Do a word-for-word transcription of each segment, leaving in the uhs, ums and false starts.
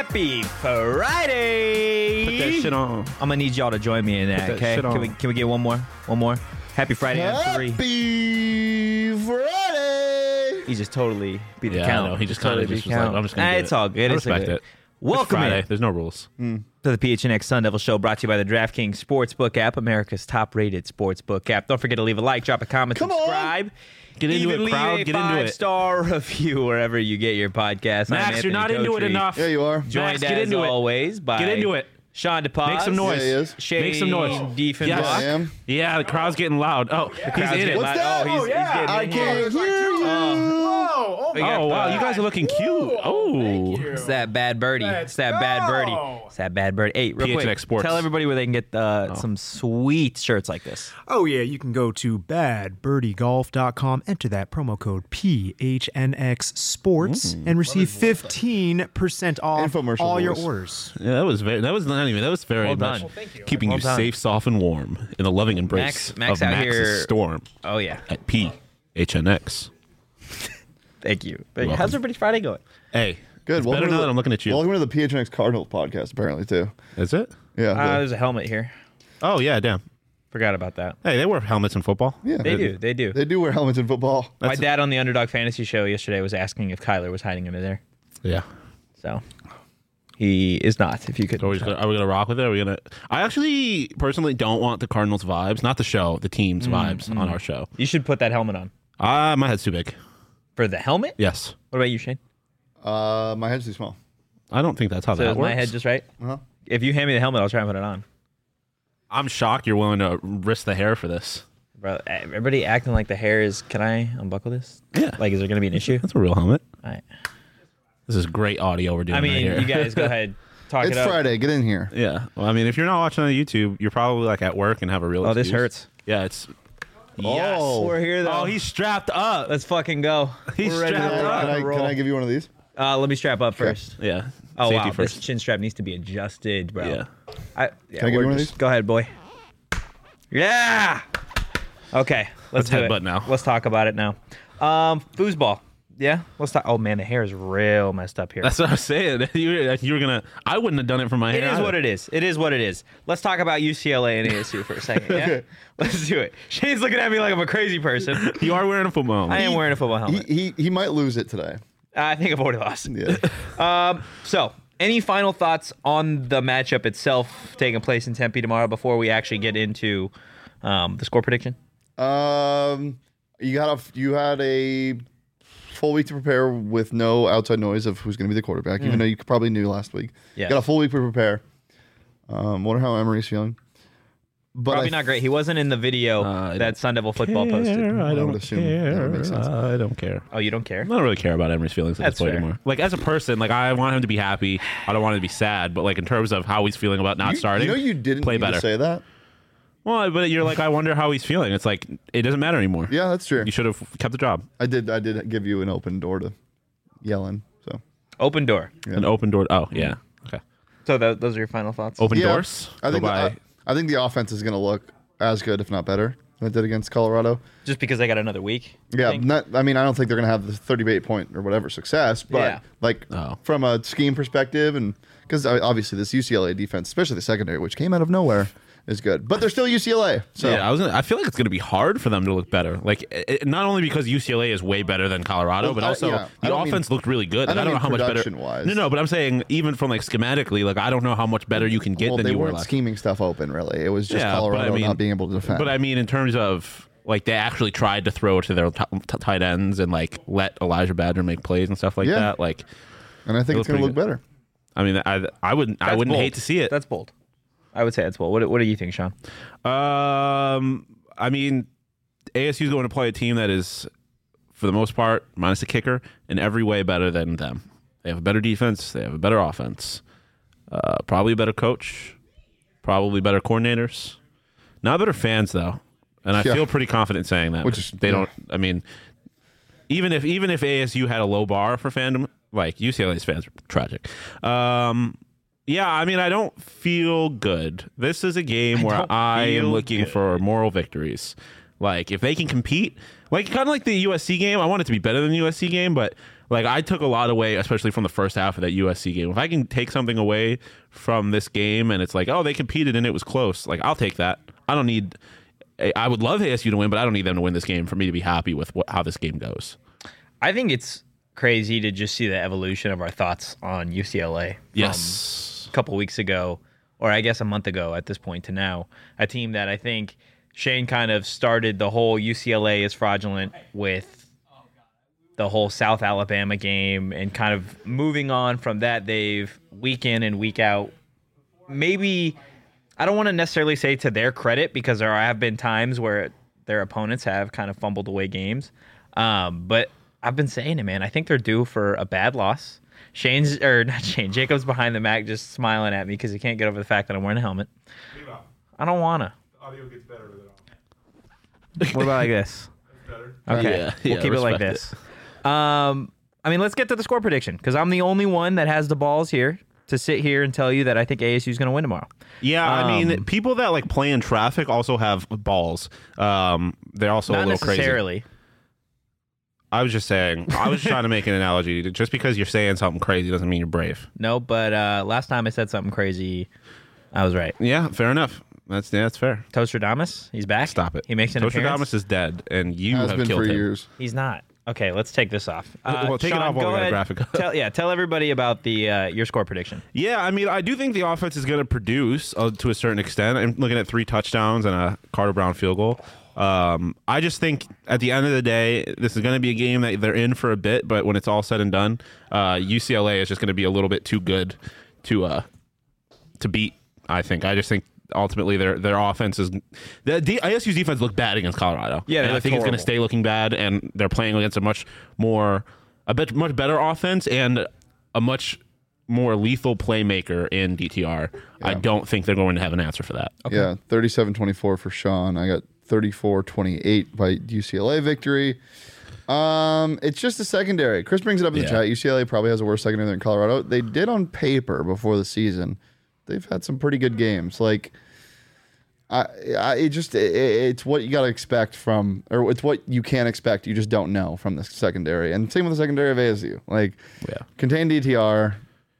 Happy Friday! Put that shit on. I'm gonna need y'all to join me in that, that okay? shit on. Can we can we get one more? One more? Happy Friday on three. Happy Friday! He just totally beat the Yeah, count. I know. He just totally kinda beat just the was like, count. I'm just gonna Ah, get It's it. all good. I It's all respect good. it. Welcome It's Friday. in There's no rules. to the P H N X Sun Devil Show, brought to you by the DraftKings Sportsbook app, America's top-rated sportsbook app. Don't forget to leave a like, drop a comment, Come on. subscribe. Get into Even it, leave crowd. a Get into it. five-star review wherever you get your podcast. I'm Max, Anthony you're not into it Kotri. enough. Yeah, you are. Joined Max, get as into it. always by Get into it. Sean DePaz. Make some noise. Yeah, he is. Shane Make some noise. Diefenbach. Yes. I am. Yeah, the crowd's getting loud. Oh, he's Crowd's in getting it. What's loud. that? Oh, he's, Oh, he's yeah. getting I in here. can't hear you. Whoa! We got Oh, wow. the- You guys are looking cute. Oh. It's that bad birdie. Let's it's that bad birdie. go. It's that bad birdie. Hey, real P H N X quick, Sports. tell everybody where they can get uh, some sweet shirts like this. Oh, yeah, you can go to bad birdie golf dot com, enter that promo code P H N X Sports, and receive fifteen percent off Infomercial all your voice. orders. Yeah, that was very. That was not even. That was very Well much done. Well, thank you. keeping Well you done. safe, soft, and warm in the loving embrace Max- Max of out Max's here- storm Oh, yeah. at P H N X. Thank you. Thank you. welcome. How's everybody's Friday going? Hey, Good. It's Welcome better to now the- that I'm looking at you. Welcome to the P H N X Cardinals podcast, apparently, too. Is it? Yeah. Uh, the- there's a helmet here. Oh yeah, damn. Forgot about that. Hey, they wear helmets in football. yeah. They do. They do. They do wear helmets in football. My That's- dad on the Underdog Fantasy Show yesterday was asking if Kyler was hiding under there. Yeah. So he is not, if you could. Are we, just gonna, are we gonna rock with it? Are we gonna? I actually personally don't want the Cardinals vibes, not the show, the team's vibes on our show. You should put that helmet on. Ah, my head's too big. For the helmet? Yes, What about you, Shane? Uh, my head's too small. I don't think that's how So that is works. my head just right? Uh-huh. If you hand me the helmet, I'll try and put it on. I'm shocked you're willing to risk the hair for this. Bro, everybody acting like the hair is. Can I unbuckle this? Yeah. Like, is there going to be an issue? That's a real helmet. All right. This is great audio we're doing I mean, right here. you guys go ahead. Talk It's it up. Friday. Get in here. Yeah. Well, I mean, if you're not watching on YouTube, you're probably like at work and have a real. Oh, this excuse. hurts. Yeah, it's. Oh. We're here, though. Oh, he's strapped up. Let's fucking go. He's We're ready to strapped Can I, rock can, I, and can roll. I give you one of these? Uh, let me strap up first. Yeah. Oh, Safety wow. first. This chin strap needs to be adjusted, bro. Yeah. I, yeah, Can I give we're you one of just- these? Go ahead, boy. Yeah. Okay. Let's, Let's do headbutt it. now. Let's talk about it now. Um, foosball. Yeah. Let's talk. Oh man, the hair is real messed up here. That's what I was saying. You, you were gonna. I wouldn't have done it for my It hair. is what it is. It is what it is. Let's talk about U C L A and A S U for a second. Yeah. Okay. Let's do it. Shane's looking at me like I'm a crazy person. You are wearing a football helmet. I am wearing a football He, helmet. he he might lose it today. I think I've already lost. Yeah. Um, so, any final thoughts on the matchup itself taking place in Tempe tomorrow before we actually get into um, the score prediction? um, you got a you had a full week to prepare with no outside noise of who's going to be the quarterback, even though you probably knew last week. Yeah. Got a full week to prepare. Um, wonder how Emery's feeling. But Probably I not great. He wasn't in the video Uh, I that Sun Devil Football posted. I I don't would assume that care. would make sense. I don't care. Oh, you don't care? I don't really care about Emery's feelings at That's this point fair. anymore. Like as a person, like I want him to be happy. I don't want him to be sad. But like in terms of how he's feeling about not You, starting, you know you didn't play need better. to say that. Well, but you're like, I wonder how he's feeling. It's like it doesn't matter anymore. Yeah, that's true. You should have kept the job. I did. I did give you an open door to yell in. So Open door. Yeah. An open door. Oh yeah. Okay. So th- those are your final thoughts? Open yeah, doors. I think Go the, by- I, I think the offense is going to look as good, if not better, than it did against Colorado. Just because they got another week? you Yeah, think? not, I mean, I don't think they're going to have the thirty-eight point or whatever success, but Yeah. like Oh. from a scheme perspective, and because obviously this U C L A defense, especially the secondary, which came out of nowhere, is good. But they're still U C L A, so yeah, I was. Gonna, I feel like it's going to be hard for them to look better. Like it, not only because U C L A is way better than Colorado, Well, but I- also yeah, I the don't mean- offense looked really good. I Like, don't I don't know mean how much better. production-wise. No, no, but I'm saying even from like schematically, like I don't know how much better you can get well, than they you were weren't last. scheming stuff open really. It was just Yeah, but I Colorado mean- not being able to defend. But I mean, in terms of like they actually tried to throw to their t- t- tight ends and like let Elijah Badger make plays and stuff like Yeah. that. Like, and I think it it's going to looked look pretty better. I mean, I I wouldn't I That's wouldn't bold. hate to see it. That's bold. I would say that's bold. What, what do you think, Sean? Um, I mean, A S U is going to play a team that is, for the most part, minus the kicker, in every way better than them. They have a better defense. They have a better offense. Uh, probably a better coach. Probably better coordinators. Not better fans though, and I Yeah. feel pretty confident saying that. Which is- they yeah. don't. I mean, even if even if A S U had a low bar for fandom, like U C L A's fans are tragic. Um, yeah, I mean, I don't feel good. This is a game where don't I am feel looking good. for moral victories. Like if they can compete, like kind of like the U S C game. I want it to be better than the U S C game, but like I took a lot away, especially from the first half of that U S C game. If I can take something away from this game, and it's like, oh, they competed and it was close, like I'll take that. I don't need. I would love A S U to win, but I don't need them to win this game for me to be happy with what, how this game goes. I think it's crazy to just see the evolution of our thoughts on U C L A. Yes. A couple weeks ago, or I guess a month ago at this point to now, a team that I think Shane kind of started the whole U C L A is fraudulent with the whole South Alabama game, and kind of moving on from that, they've week in and week out, maybe, I don't want to necessarily say to their credit, because there have been times where their opponents have kind of fumbled away games. Um, but I've been saying it, man. I think they're due for a bad loss. Shane's, or not Shane, Jacob's behind the Mac just smiling at me because he can't get over the fact that I'm wearing a helmet. I don't want to. The audio gets better with it on. What about like this? That's better. Okay, Yeah, we'll yeah, keep it like respect this. Um, I mean, let's get to the score prediction, because I'm the only one that has the balls here to sit here and tell you that I think A S U is going to win tomorrow. Yeah, I Um, mean, people that like play in traffic also have balls. Um, they're also Not a little crazy. necessarily. I was just saying. I was trying to make an analogy. Just because you're saying something crazy doesn't mean you're brave. No, but uh, last time I said something crazy, I was right. Yeah, fair enough. That's yeah, that's fair. Toastradamus, he's back. Stop it. He makes an appearance. Tostradamus is dead, and you Has have been killed for him. years. He's not. Okay, let's take this off. Uh, Well, take it Sean, off while go we got a ahead. graphic up. Tell, yeah, tell everybody about the uh, your score prediction. Yeah, I mean, I do think the offense is going to produce uh, to a certain extent. I'm looking at three touchdowns and a Carter Brown field goal. Um, I just think at the end of the day, this is going to be a game that they're in for a bit, but when it's all said and done, uh, U C L A is just going to be a little bit too good to uh, to beat. I think. I just think ultimately their their offense is the D, I S U's defense looked bad against Colorado. Yeah, they and I looked think it's going horrible. to stay looking bad, and they're playing against a much more a bit much better offense and a much more lethal playmaker in D T R. I don't think they're going to have an answer for that. Yeah, thirty-seven twenty-four for Sean. I got thirty-four twenty-eight by U C L A victory. Um, it's just the secondary. Chris brings it up in the Yeah. chat. U C L A probably has a worse secondary than Colorado. They did on paper before the season. They've had some pretty good games. Like, I, I it just it, it's what you got to expect from, or it's what you can expect. You just don't know from the secondary. And same with the secondary of A S U. Like, Yeah. contain D T R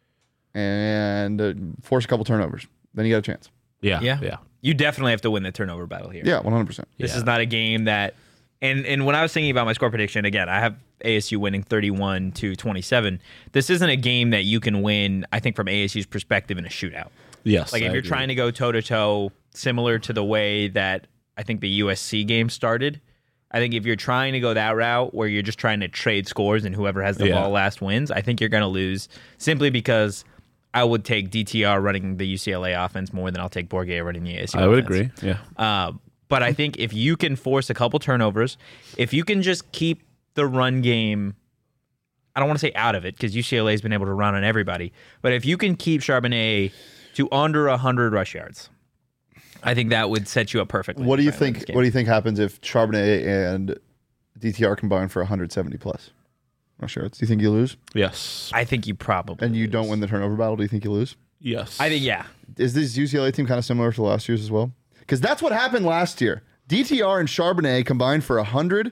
and uh, force a couple turnovers. Then you got a chance. Yeah, Yeah, yeah. You definitely have to win the turnover battle here. Yeah, one hundred percent. This Yeah. is not a game that, and and when I was thinking about my score prediction, again, I have A S U winning thirty-one to twenty-seven. This isn't a game that you can win, I think, from A S U's perspective in a shootout. Yes. Like if I you're agree. trying to go toe to toe, similar to the way that I think the U S C game started. I think if you're trying to go that route where you're just trying to trade scores and whoever has the Yeah. ball last wins, I think you're going to lose simply because I would take D T R running the U C L A offense more than I'll take Bourget running the A S U I would offense. agree. Yeah. Uh, but I think if you can force a couple turnovers, if you can just keep the run game, I don't want to say out of it because U C L A has been able to run on everybody, but if you can keep Charbonnet to under one hundred rush yards, I think that would set you up perfectly. What do you to try and win think? this game. What do you think happens if Charbonnet and D T R combine for one hundred seventy plus rush yards? Do you think you lose? Yes. I think you probably And you lose. don't win the turnover battle? Do you think you lose? Yes. I think yeah. Is this U C L A team kind of similar to the last year's as well? Because that's what happened last year. D T R and Charbonnet combined for one hundred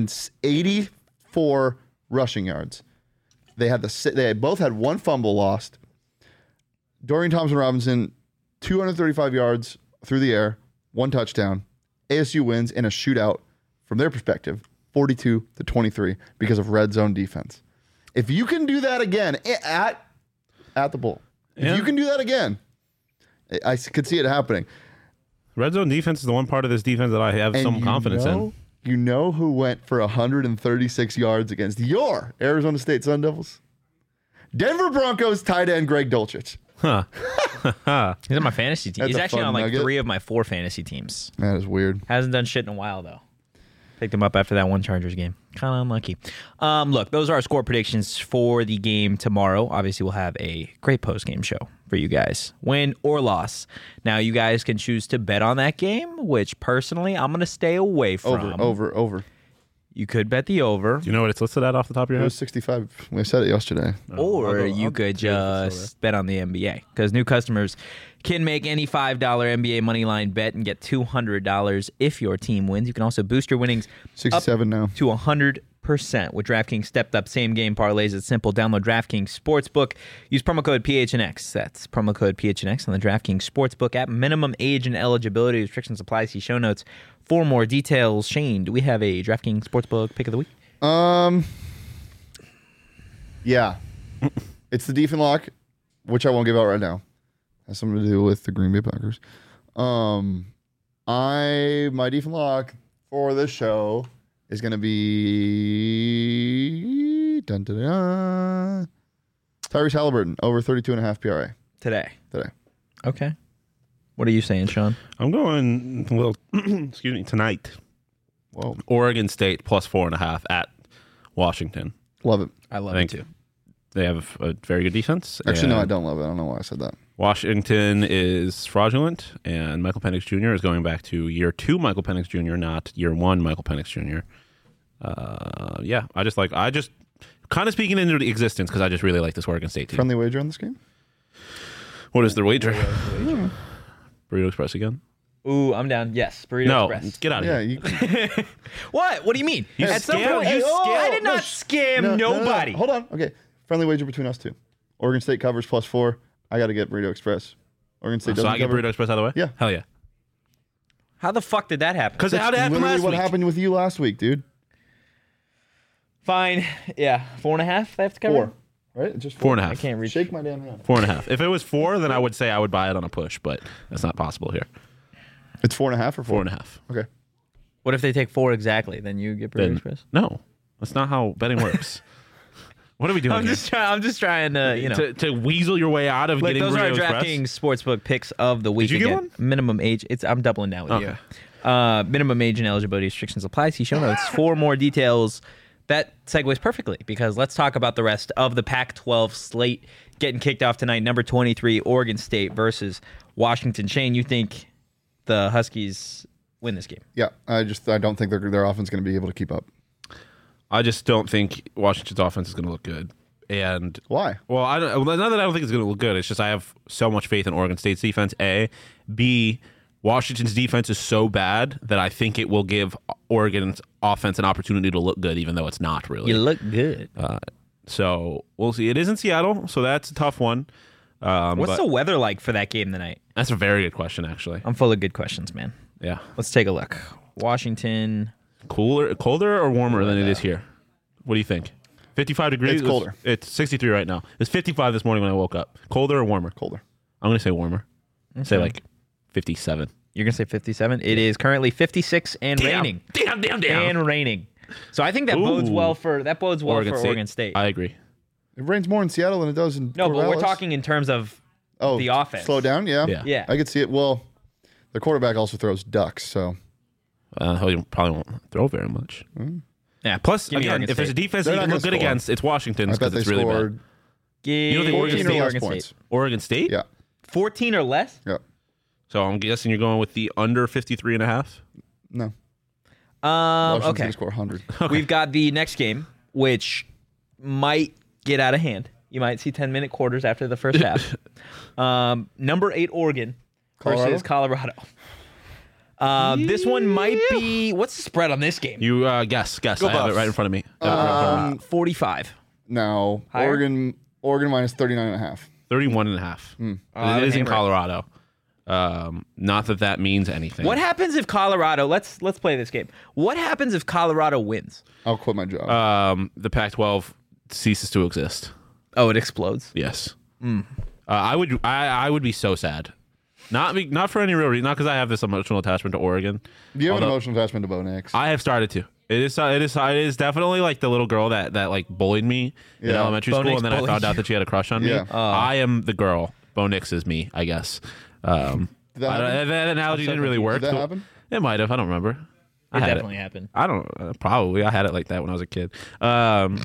eighty-four rushing yards. They had the si- they both had one fumble lost. Dorian Thompson Robinson, two hundred thirty-five yards through the air, one touchdown. A S U wins in a shootout from their perspective, forty-two to twenty-three because of red zone defense. If you can do that again i- at at the Bowl, if Yeah. you can do that again, I- I s- could see it happening. Red zone defense is the one part of this defense that I have And some you confidence know, in. You know who went for one hundred thirty-six yards against your Arizona State Sun Devils? Denver Broncos tight end Greg Dulcich. Huh. He's on my fantasy team. That's He's a actually fun on like nugget. three of my four fantasy teams. That is weird. Hasn't done shit in a while though. Picked him up after that one Chargers game. Kind of unlucky. Um, look, those are our score predictions for the game tomorrow. Obviously, we'll have a great post game show for you guys, win or loss. Now, you guys can choose to bet on that game, which personally I'm going to stay away from. Over, over, over. You could bet the over, Do you know what it's listed at off the top of your It head? was sixty-five. We said it yesterday. or I'll go- you I'll could take it over. just bet on the N B A because new customers can make any five dollar N B A moneyline bet and get two hundred dollars if your team wins. You can also boost your winnings sixty-seven now. to one hundred percent with DraftKings stepped up same game parlays. It's simple. Download DraftKings Sportsbook. Use promo code P H N X. That's promo code P H N X on the DraftKings Sportsbook app. Minimum age and eligibility restrictions apply. See show notes for more details. Shane, do we have a DraftKings Sportsbook pick of the week? Um, yeah, it's the Defense Lock, which I won't give out right now. Has something to do with the Green Bay Packers. Um, I my Defense Lock for this show is going to be dun, dun, dun, Tyrese Halliburton over thirty-two and a half P R A Today. today. Okay. What are you saying, Sean? I'm going a little, excuse me, tonight. Whoa, Oregon State plus four and a half at Washington. love it. I love I it think too. They have a very good defense. Actually, no, I and don't love it. I don't know why I said that. Washington is fraudulent, and Michael Penix Junior is going back to year two Michael Penix Junior, not year one Michael Penix Junior Uh, yeah, I just like, I just kind of speaking into existence because I just really like this Oregon State team. Friendly wager on this game? What is their wager? Burrito Express again? Ooh, I'm down. Yes, Burrito No, Express. get out of Yeah, here. you can. What? What do you mean? You At some scam- point, you you scam- I did no, not sh- scam No, no, no, no. nobody. Hold on. Okay. Friendly wager between us two. Oregon State covers plus four. I got to get Burrito Express. Oregon State So doesn't I get cover. Burrito Express out of the way? Yeah. Hell yeah. How the fuck did that happen? Because how did it happen Literally last what week? happened with you last week, dude. Fine. Yeah, four and a half. I have to cover. Four. Right? It's just Four and a I half. can't reach. Shake my damn hand. Four and a half. If it was four, then I would say I would buy it on a push, but that's not possible here. It's four and a half or four? Four and a half. Okay. What if they take four exactly? Then you get Burrito Then, Express. no, that's not how betting works. What are we doing I'm here? just trying. I'm just trying to, you know. to, to weasel your way out of Like, getting those are our Burrito Express? DraftKings Sportsbook picks of the week. you get Again, one? Minimum age. It's. I'm doubling down with Okay. you. Uh, minimum age and eligibility restrictions apply. See show notes for more details. That segues perfectly because let's talk about the rest of the Pac twelve slate getting kicked off tonight. Number twenty-three, Oregon State versus Washington. Shane, you think the Huskies win this game? Yeah. I just I don't think their their offense is going to be able to keep up. I just don't think Washington's offense is going to look good. And Why? well, I don't. Well, not that I don't think it's going to look good. It's just I have so much faith in Oregon State's defense. A, B. Washington's defense is so bad that I think it will give Oregon's offense an opportunity to look good, even though it's not really. You look good. Uh, so we'll see. It is in Seattle, so that's a tough one. Um, What's but the weather like for that game tonight? that's a very good question, actually. I'm full of good questions, man. Yeah, Let's take a look. Washington. cooler, colder or warmer than it is here? What do you think? fifty-five degrees. It's colder. It's sixty-three right now. It's fifty-five this morning when I woke up. Colder or warmer? Colder. I'm gonna say warmer. Say like fifty-seven. You're gonna say fifty-seven. It is currently fifty-six and raining. Damn, damn, damn. And raining. So I think that bodes Ooh. well for that bodes well Oregon for State. Oregon State. I agree. It rains more in Seattle than it does in no, but we're Corvallis. talking in terms of oh, the offense. Slow down, yeah. Yeah. yeah. I could see it. Well, the quarterback also throws ducks, so Uh, he probably won't throw very much. yeah. Plus, Give me again, Oregon if there's a State. defense They're that you not can look gonna good score. against, it's Washington's I bet because they it's really scored bad. Give You don't think Oregon fourteen State- or less Oregon points. State. Oregon State? Yeah, fourteen or less? yeah. So I'm guessing you're going with the under fifty-three and a half? No. Um, Washington's okay. going to score one hundred. We've got the next game, which might get out of hand. You might see ten minute quarters after the first half. Um, number eight, Oregon versus Colorado. Uh, This one might be. What's the spread on this game? You uh, guess, guess. Go I have it Buffs. right in front of me. I have it right in front of me. Uh, forty-five. Now, Higher? Oregon Oregon minus thirty-nine and a half. thirty-one and a half. Oh, But it is in hammer it. Colorado. Um, not that that means anything. What happens if Colorado? Let's let's play this game. What happens if Colorado wins? I'll quit my job. Um, the Pac twelve ceases to exist. Oh, it explodes. Yes. Uh, I would. I, I would be so sad. Not be, not for any real reason. Not because I have this emotional attachment to Oregon. Do you have an although- emotional attachment to Bo Nix? I have started to. It is. It is. It is definitely like the little girl that that like bullied me in Yeah. elementary Bo school, Nix and then I bullied found you. out that she had a crush on me. Yeah. Oh. I am the girl. Bo Nix is me, I guess. Um, Did that I don't- happen? that analogy didn't really work. Did that happen? It might have. I don't remember. I It had definitely happened. I don't. Uh, probably. I had it like that when I was a kid. Um,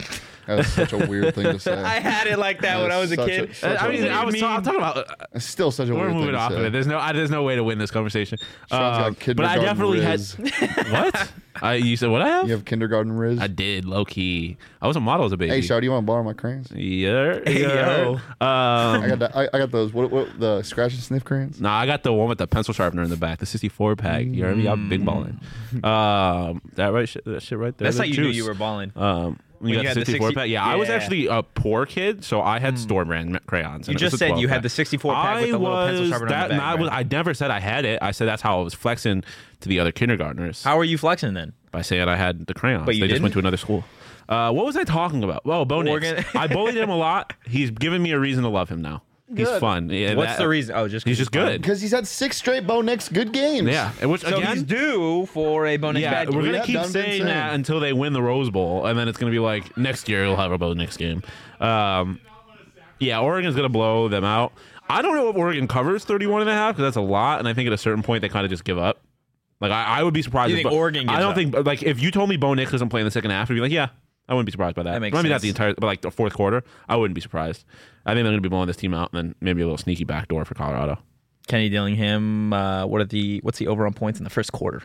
That's such a weird thing to say. I had it like that when I was a Such kid. a- such I a mean, weird- I was ta- I'm talking about. Uh, It's still such a we're weird thing moving to off say. of it. There's no, I, there's no way to win this conversation. Sean's got Um, but I kindergarten definitely riz. had. What? I you said what I have? You have kindergarten riz. I did low key. I was a model as a baby. Hey, Shaw, do you want to borrow my crayons? Yeah. Hey, yo. Um, I got that, I, I got those. What, what the scratch and sniff crayons? Nah, I got the one with the pencil sharpener in the back, the sixty-four pack. You heard me? I'm big balling. Um, that right? Shit, that shit right there. That's how the you juice. knew you were balling. Um, when you you got had the the sixty-four sixty pack. Yeah, I was yeah. actually a poor kid, so I had store brand crayons. You and it was just a said twelve you had pack. the sixty-four pack with I the little pencil was sharpener on that, the back. nah, I, was, right? I never said I had it. I said that's how I was flexing to the other kindergartners How are you flexing then? by saying I had the crayons. But you they just went didn't? to another school. Uh, what was I talking about? Oh, Bo Nix. Oregon. I bullied him a lot. He's given me a reason to love him now. He's Good. fun. Yeah, What's that- the reason? Oh, just 'cause He's just fun. good. Because he's had six straight Bo Nix good games. Yeah, and which So again, he's due for a bonus yeah, bad we're game. gonna Yeah, keep Dunn did saying say. that until they win the Rose Bowl, and then it's gonna be like next year he'll have a Bo Nix game. Um, yeah, Oregon's gonna blow them out. I don't know if Oregon covers thirty-one and a half because that's a lot, and I think at a certain point they kind of just give up. Like I, I would be surprised. You if think Bo- Oregon I gives don't up? think like if you told me Bo Nix doesn't play in the second half, I'd be like, yeah, I wouldn't be surprised by that. That makes Maybe not sense. the entire, but like the fourth quarter, I wouldn't be surprised. I think they're gonna be blowing this team out, and then maybe a little sneaky backdoor for Colorado. Kenny Dillingham. Uh, what are the what's the over on points in the first quarter?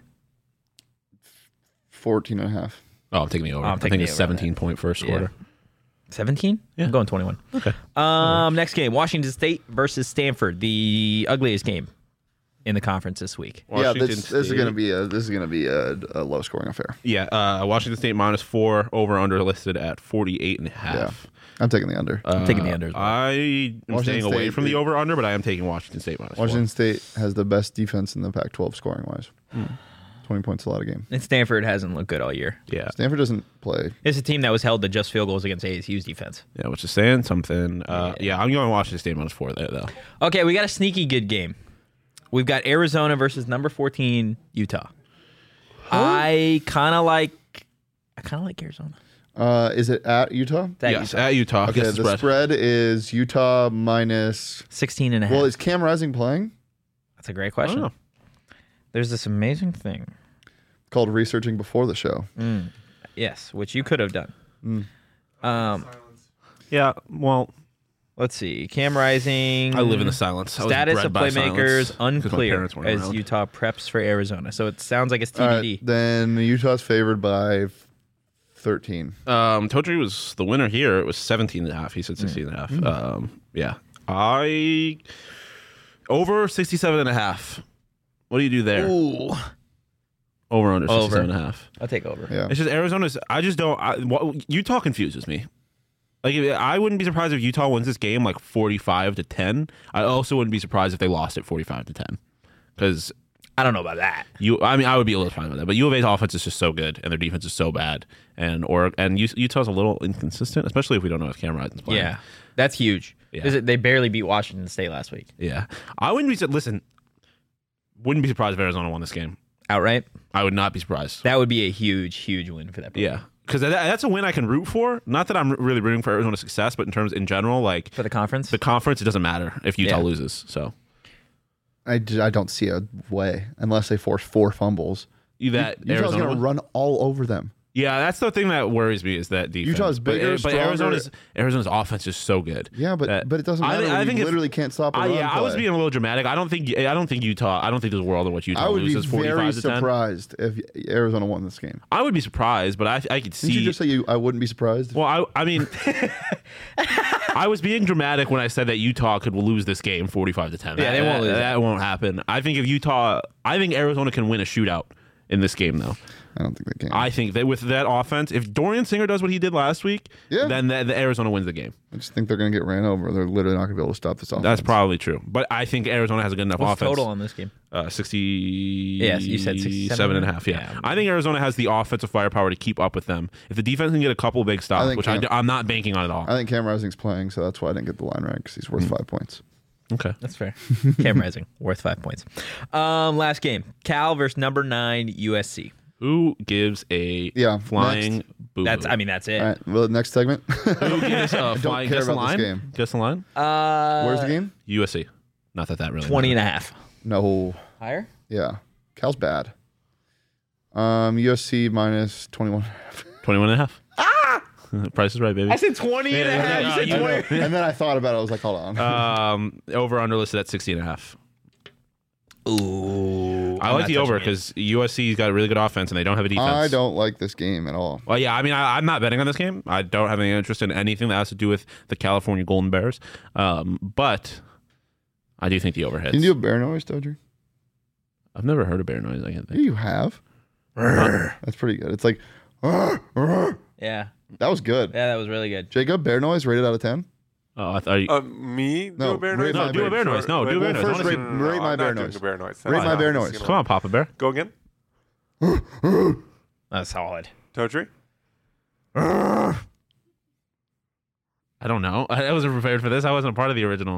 fourteen and a half. Oh, I'm taking the over. I'm I taking think the it's over on that. seventeen point first Yeah. quarter. Seventeen. Yeah. I'm going twenty-one. Okay. Um, next game: Washington State versus Stanford, the ugliest game in the conference this week. Yeah, Washington this, this is State- gonna be a this is gonna be a, a low scoring affair. Yeah, uh, Washington State minus four, over under listed at forty-eight and a half. Yeah, I'm taking the under. I'm taking the under as well. I am Washington staying away State- from the over under, but I am taking Washington State minus Washington State has the best defense in the Pac twelve scoring wise. Twenty points a lot of game. And Stanford hasn't looked good all year. four. Yeah, Stanford doesn't play. It's a team that was held to just field goals against A S U's defense. yeah, which is saying something. Uh, yeah. I'm going Washington State minus four there though. Okay, we got a sneaky good game. We've got Arizona versus number fourteen Utah. I kind of like. I kind of like Arizona. Uh, is it at Utah? That yes, Utah. at Utah. Okay, Guess the the spread. is Utah minus. sixteen and a half. Well, is Cam Rising playing? That's a great question. Oh. There's this amazing thing. Called researching before the show. Yes, which you could have done. Mm. Um, Yeah, well, let's see. Cam Rising. I live in the silence. I was Status bred of by playmakers silence 'cause my unclear parents weren't as around. Utah preps for Arizona. So it sounds like it's All T B D. right, then Utah's favored by thirteen. Um, Totri was the winner here. It was seventeen and a half. He said sixteen and a half. Um, yeah. I over sixty-seven and a half. What do you do there? Ooh, Over under Over. sixty-seven and a half. I'll take over. Yeah. It's just Arizona's. I just don't. I, what, Utah confuses me. Like I wouldn't be surprised if Utah wins this game like forty-five to ten. I also wouldn't be surprised if they lost it forty-five to ten. Because I don't know about that. you, I mean, I would be a little surprised with that. But U of A's offense is just so good, and their defense is so bad, and or and U- Utah's a little inconsistent, especially if we don't know if Cam Rising's playing. Yeah, that's huge. Yeah. Is it- They barely beat Washington State last week. Yeah, I wouldn't be. Listen, wouldn't be surprised if Arizona won this game. Outright? I would not be surprised. That would be a huge, huge win for that program. Yeah, because that, that's a win I can root for. Not that I'm really rooting for Arizona's success, but in terms in general, like For the conference? the conference, it doesn't matter if Utah Yeah. loses. So I, j- I don't see a way unless they force four fumbles. you that Utah's Arizona going won? to run all over them. Yeah, that's the thing that worries me is that defense. Utah's bigger, but, but stronger. Arizona's Arizona's offense is so good. Yeah, but that- but it doesn't I matter. thi- I when think you if- literally can't stop a I, run yeah, I was play. being a little dramatic. I don't think I don't think Utah. I don't think there's a world in which Utah I would be loses very forty-five to ten. surprised if Arizona won this game. I would be surprised, but I I could see. Didn't you just say you? I wouldn't be surprised. well, I I mean, I was being dramatic when I said that Utah could lose this game forty-five to ten. Yeah, they That- won't lose That, it. that won't happen. I think if Utah, I think Arizona can win a shootout in this game, though. I don't think they can. I think that with that offense, if Dorian Singer does what he did last week, Yeah. then the, the Arizona wins the game. I just think they're going to get ran over. They're literally not going to be able to stop this offense. That's probably true. But I think Arizona has a good enough What's offense. total on this game? Uh, sixty. Yes, you said sixty-seven seven and a half. Yeah. Yeah. I think Arizona has the offensive firepower to keep up with them. If the defense can get a couple big I stops, think which Cam- I, am not banking on at all. I think Cam Rising's playing, so that's why I didn't get the line right because he's Hmm. worth five points. okay. That's fair. Cam Rising, worth five points. Um, last game. Cal versus number nine U S C. Who gives a Yeah, flying boo? That's I mean that's it. All right. Well, next segment. Who gives a flying? care Guess the about this line. game. Guess the line. Uh Where's the game? U S C. Not that that really. twenty and matters. a half. No. Higher? Yeah. Cal's bad. Um, U S C minus twenty-one. twenty-one and a half. Price is right, baby. I said twenty and a Yeah, half. yeah, You said yeah, you twenty. and then I thought about it. I was like, hold on. Um, over under listed at sixty and a half. Ooh. I like the over because U S C's got a really good offense and they don't have a defense. I don't like this game at all. Well, yeah, I mean, I, I'm not betting on this game. I don't have any interest in anything that has to do with the California Golden Bears. Um, but I do think the over hits. Can you do a bear noise, Dodger? I've never heard a bear noise. I can't Yeah, think. you have. That's pretty good. It's like, that Yeah. was good. Yeah, that was really good. Jacob, bear noise rated out of ten. Oh, I thought you. Uh, me? Do No, a bear rate noise? my No, do a bear noise. No, do a Well, bear noise. first I wanna rate- see- rate my I'm bear not doing noise. a bear noise. Rate That's my not bear this, noise. you know. Come on, Papa Bear. Go again. That's solid. Totri? I don't know. I, I wasn't prepared for this. I wasn't a part of the original.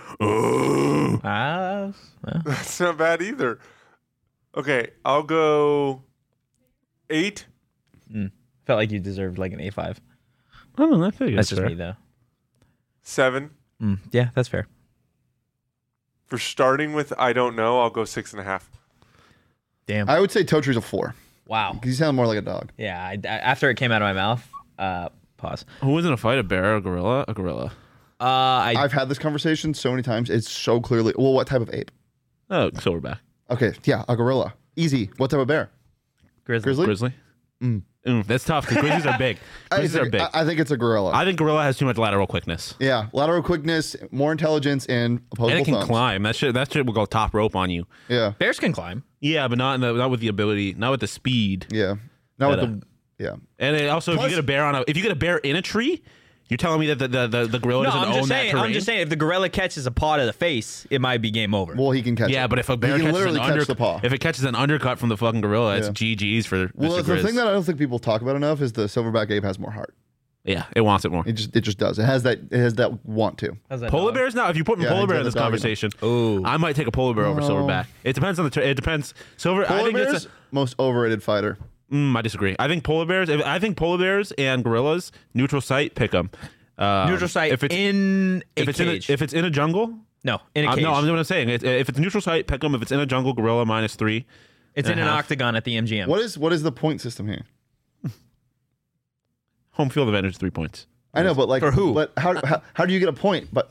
Ah, well, That's not bad either. Okay, I'll go eight. felt like you deserved like an A five. I don't know. I feel That's just me though. Seven. Mm, yeah, that's fair. For starting with I don't know, I'll go six and a half. Damn. I would say Totri's a four. Wow. Because you sound more like a dog. Yeah. I, I- after it came out of my mouth, uh, pause. Who was in a fight? A bear or a gorilla? A gorilla. Uh, I I've had this conversation so many times. It's so clearly. Well, what type of ape? Oh, silverback. Okay, yeah, a gorilla. Easy. What type of bear? grizzly. Grizzly. Grizzly. Mm, that's tough because grizzlies are big. I Grizzlies are think, big. I, I think it's a gorilla. I think gorilla has too much lateral quickness. yeah, lateral quickness, more intelligence, and opposable And it can thumbs. climb. That shit. That shit will go top rope on you. Yeah, Bears can climb. Yeah, but not in the, not with the ability, not with the speed. yeah. Now with But, the yeah. And it also, Plus- if you get a bear on a, if you get a bear in a tree, you're telling me that the the, the, the gorilla No, doesn't I'm own just that saying. terrain. I'm just saying. If the gorilla catches a paw to the face, it might be game over. Well, he can catch. Yeah, it. but if a bear he can catches an literally under, catch the paw. if it catches an undercut from the fucking gorilla, it's Yeah. G G's for well, Mister the Grizz. thing that I don't think people talk about enough is the silverback ape has more heart. yeah, it wants it more. It just it just does. It has that it has that want to. How's that Polar dog? bears now. If you put Yeah, polar he's bear got in this the dog in him. conversation, Ooh. I might take a polar bear over No. silverback. It depends on the. Ter- it depends. Silver. I Polar think bears it's. A, most overrated fighter. mm, I disagree. I think polar bears. If, I think polar bears and gorillas neutral site pick them. Um, Neutral site If it's in a if it's in a, cage. if it's in a jungle. no, in a Uh, cage. no, I'm what I'm saying. It, if it's neutral site, pick them. If it's in a jungle, gorilla minus three. it's and in a an half. octagon at the M G M. What is what is the point system here? Home field advantage, three points. I know, but like For who? But how how, how do you get a point? But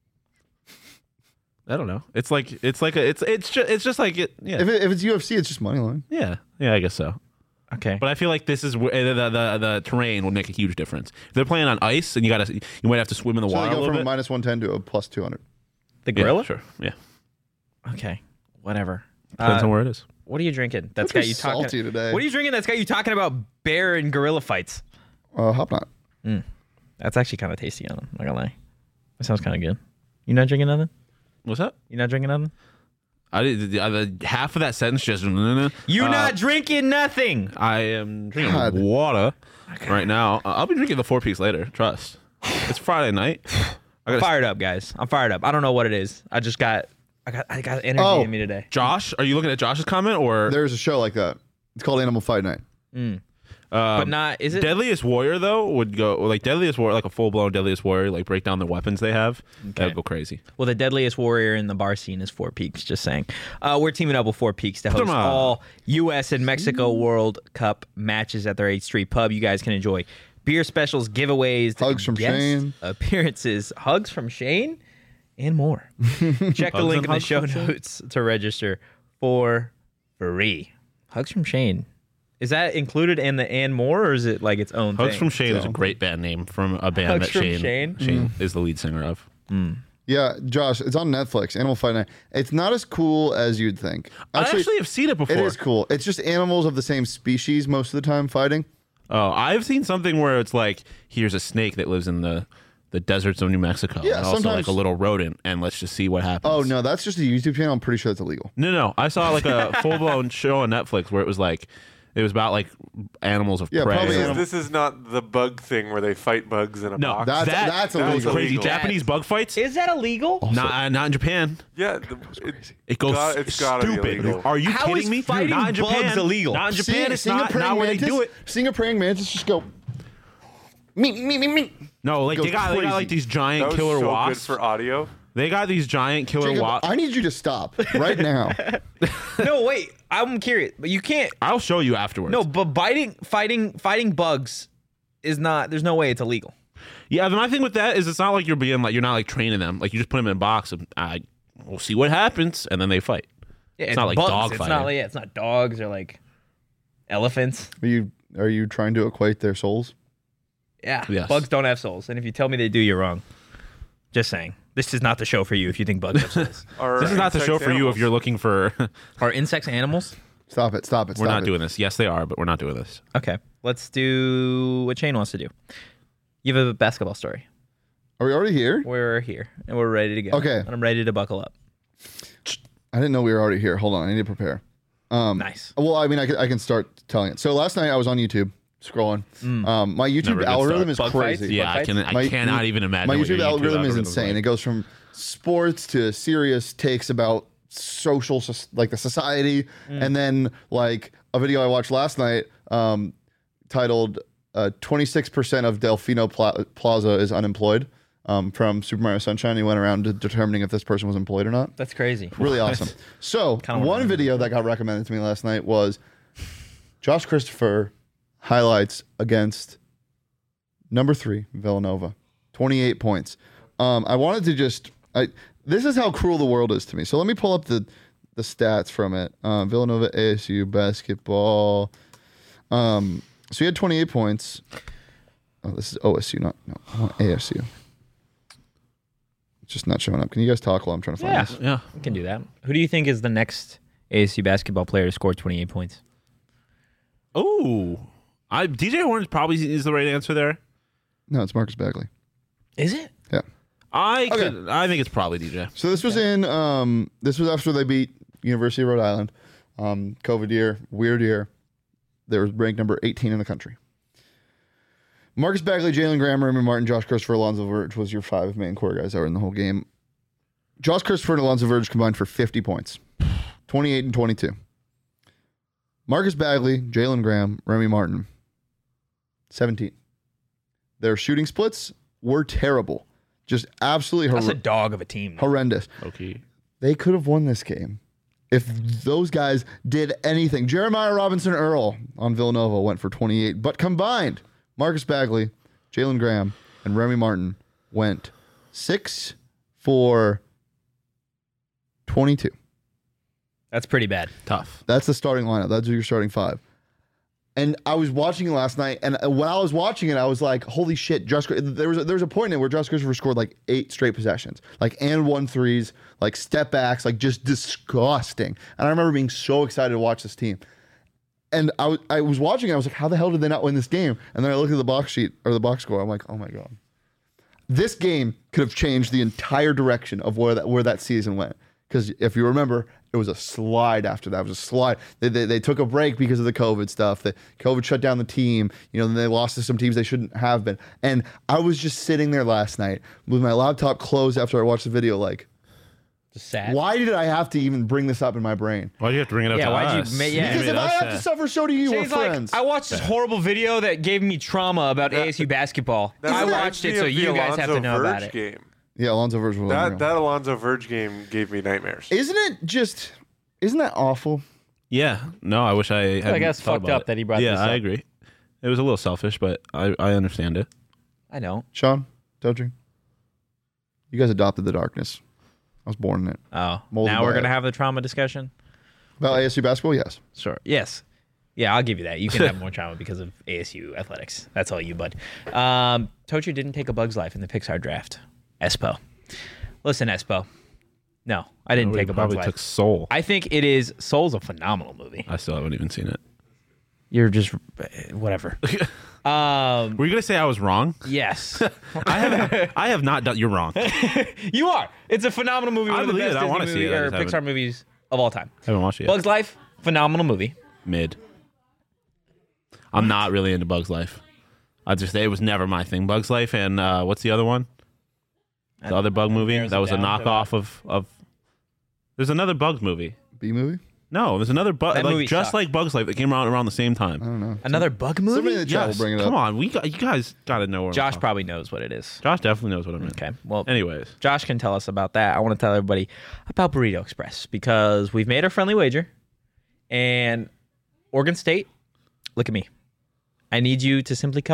I don't know. It's like it's like a, it's it's just it's just like it. Yeah, if it, if it's U F C, it's just money line. yeah, yeah. I guess so. Okay. But I feel like this is where the, the the the terrain will make a huge difference. If they're playing on ice and you gotta, you might have to swim in the So water they a go little from a bit. minus one ten to a plus two hundred. the Yeah, gorilla? sure. Yeah, Okay. Whatever. depends Uh, on where it is. what are you drinking? That's You're got you talking. salty today. What are you drinking? That's got you talking about bear and gorilla fights. Uh, hop not. That's actually kind of tasty on them. Not gonna lie. That sounds kind of good. You not drinking nothing? What's that? You not drinking nothing? I did the, the, half of that sentence just. Uh, You not drinking nothing. I am drinking God. water right now. Uh, I'll be drinking the four piece later. Trust. It's Friday night. I I'm got fired up, guys. I'm fired up. I don't know what it is. I just got, I got, I got energy Oh. in me today. Josh. Are you looking at Josh's comment or? There's a show like that. It's called Animal Fight Night. Um, But not. Is it? Deadliest Warrior though would go like Deadliest Warrior, like a full blown Deadliest Warrior, like break down the weapons they have. That would go crazy. Well, the deadliest warrior in the bar scene is Four Peaks. Just saying. Uh, we're teaming up with Four Peaks to host Come on. all U S and Mexico World Cup matches at their eighth Street Pub. You guys can enjoy beer specials, giveaways, Hugs from guest Shane. appearances, hugs from Shane, and more. Check the Hugs link and in the hugs show from Shane. notes to register for free. Hugs from Shane. Is that included in the and more, or is it like its own Hugs thing? from Shane is a So- great band name from a band Hugs that from Shane Shane? Shane is the lead singer of. Yeah, Josh, it's on Netflix. Animal Fight Night. It's not as cool as you'd think. I actually have seen it before. it is cool. It's just animals of the same species most of the time fighting. Oh, I've seen something where it's like, here's a snake that lives in the, the deserts of New Mexico. Yeah, and also sometimes- like a little rodent, and let's just see what happens. Oh no, that's just a YouTube channel. I'm pretty sure that's illegal. No, no. I saw like a full blown show on Netflix where it was like, it was about like animals of Yeah, prey. probably This is, animal- this is not the bug thing where they fight bugs in a No, box. That's that, that's that was illegal. crazy. illegal. Japanese bug fights? Is that illegal? Not, not in Japan. yeah, the, it, It goes got- it's gotta be stupid. illegal. Are you How kidding is me? fighting not in Japan. bugs illegal? Not in Japan. See- it's seeing a not, praying not where they mantis, do it. Seeing a praying mantis just go. Me me me me. No, like Goes they got, they got crazy. like these that giant was killer so wasps. good for audio. They got these giant killer Jacob, wasps. I need you to stop right now. No, wait. I'm curious, but you can't. I'll show you afterwards. No, but biting, fighting, fighting bugs is not. There's no way it's illegal. Yeah, my thing with that is it's not like you're being like you're not like training them. Like you just put them in a box and I we'll see what happens, and then they fight. Yeah, It's not like bugs. dog It's fighting. not like yeah, it's not dogs or like elephants. Are you are you trying to equate their souls? Yeah, Yes. bugs don't have souls, and if you tell me they do, you're wrong. Just saying. This is not the show for you if you think bugs have souls. Are This is not the insects show for you animals? if you're looking for. Are insects animals? Stop it! Stop it! We're stop not it. doing this. Yes, they are, but we're not doing this. Okay, let's do what Shane wants to do. You have a basketball story. Are we already here? We're here and we're ready to go. Okay. and I'm ready to buckle up. I didn't know we were already here. Hold on, I need to prepare. Um, Nice. Well, I mean, I can, I can start telling it. So last night I was on YouTube scrolling. Um, my YouTube Never a good algorithm start. is Bug fights? crazy. Yeah, I can. I My- cannot even imagine. My what your YouTube algorithm is algorithm's insane. like. It goes from sports to serious takes about social, soc- like the society, and then like a video I watched last night um, titled uh, twenty-six percent of Delfino Pla- Plaza is unemployed um, from Super Mario Sunshine. He went around to determining if this person was employed or not. That's crazy. Really awesome. So Kinda one wanna- video that got recommended to me last night was Josh Christopher highlights against number three Villanova, twenty-eight points. Um, I wanted to just I this is how cruel the world is to me. So let me pull up the the stats from it. Uh, Villanova A S U basketball. Um, so he had twenty-eight points. Oh, this is O S U, not no I want A S U. It's just not showing up. Can you guys talk while I'm trying to find Yeah, this? Yeah. we can do that. Who do you think is the next A S U basketball player to score twenty-eight points? Oh, I D J Horn probably is the right answer there. No, it's Marcus Bagley. Is it? Yeah. I Okay. could, I think it's probably D J. So this was in um this was after they beat University of Rhode Island. Um, COVID year, weird year. They were ranked number eighteen in the country. Marcus Bagley, Jalen Graham, Raymond Martin, Josh Christopher, Alonzo Verge was your five main core guys that were in the whole game. Josh Christopher and Alonzo Verge combined for fifty points, twenty-eight and twenty-two. Marcus Bagley, Jalen Graham, Remy Martin, seventeen. Their shooting splits were terrible, just absolutely hor- That's a dog of a team. though. horrendous. Okay. They could have won this game if those guys did anything. Jeremiah Robinson Earl on Villanova went for twenty-eight, but combined, Marcus Bagley, Jalen Graham, and Remy Martin went six for twenty-two. That's pretty bad. Tough. That's the starting lineup. That's your starting five. And I was watching it last night, and when I was watching it, I was like, "Holy shit!" Josh, there was a, there was a point in it where Josh Christopher scored like eight straight possessions, like and one threes, like step backs, like just disgusting. And I remember being so excited to watch this team. And I was I was watching it, I was like, "How the hell did they not win this game?" And then I looked at the box sheet or the box score. I'm like, "Oh my god, this game could have changed the entire direction of where that where that season went." Because if you remember, it was a slide after that. It was a slide. They, they, they took a break because of the COVID stuff. The COVID shut down the team. You know, then they lost to some teams they shouldn't have been. And I was just sitting there last night with my laptop closed after I watched the video, like, Just sad. why did I have to even bring this up in my brain? Why do you have to bring it up Yeah, to why'd you us? ma- yeah. Because if I have to suffer, so do you. We're Shane's like, friends. I watched this horrible video that gave me trauma about A S U basketball. That I reminds watched me it, so of the you guys have to Alonzo know about Verge it. Game. yeah, Alonzo Verge was That unreal. that Alonzo Verge game gave me nightmares. Isn't it just, isn't that awful? Yeah. No, I wish I had. I guess fucked up that he brought Yeah, this I up. agree. It was a little selfish, but I, I understand it. I know. Sean, Dodgy, you guys adopted the darkness. I was born in it. Oh, Molded now by we're it. gonna have the trauma discussion. About A S U basketball, yes. Sure. Yes. Yeah, I'll give you that. You can have more trauma because of A S U athletics. That's all you, bud. Um, Tocher didn't take a Bug's Life in the Pixar draft. Espo. Listen, Espo. No, I didn't We take a Bug's probably Life. took Soul. I think it is. Soul's a phenomenal movie. I still haven't even seen it. You're just whatever. um, Were you gonna say I was wrong? yes, I have. I have not done. You're wrong. I you are. It's a phenomenal movie. I One of the believe best it. I Disney wanna see movie, it. I or just Pixar haven't. movies of all time. haven't watched it yet. Bug's Life, phenomenal movie. Mid. I'm not really into Bug's Life. I just it was never my thing. Bug's Life and uh, what's the other one? The other bug movie Narrows that it was a down to knockoff of of. There's another Bugs movie. B movie? No, there's another bug That movie like just sucked. like Bug's Life that came out around the same time. I don't know. Another bug Somebody in movie. the chat Yes, will bring it come up. on, we got you guys got to know where. I'm Josh talking. probably knows what it is. Josh definitely knows what I mean. Okay. Well, Anyways, Josh can tell us about that. I want to tell everybody about Burrito Express because we've made our friendly wager. And Oregon State, look at me. I need you to simply cover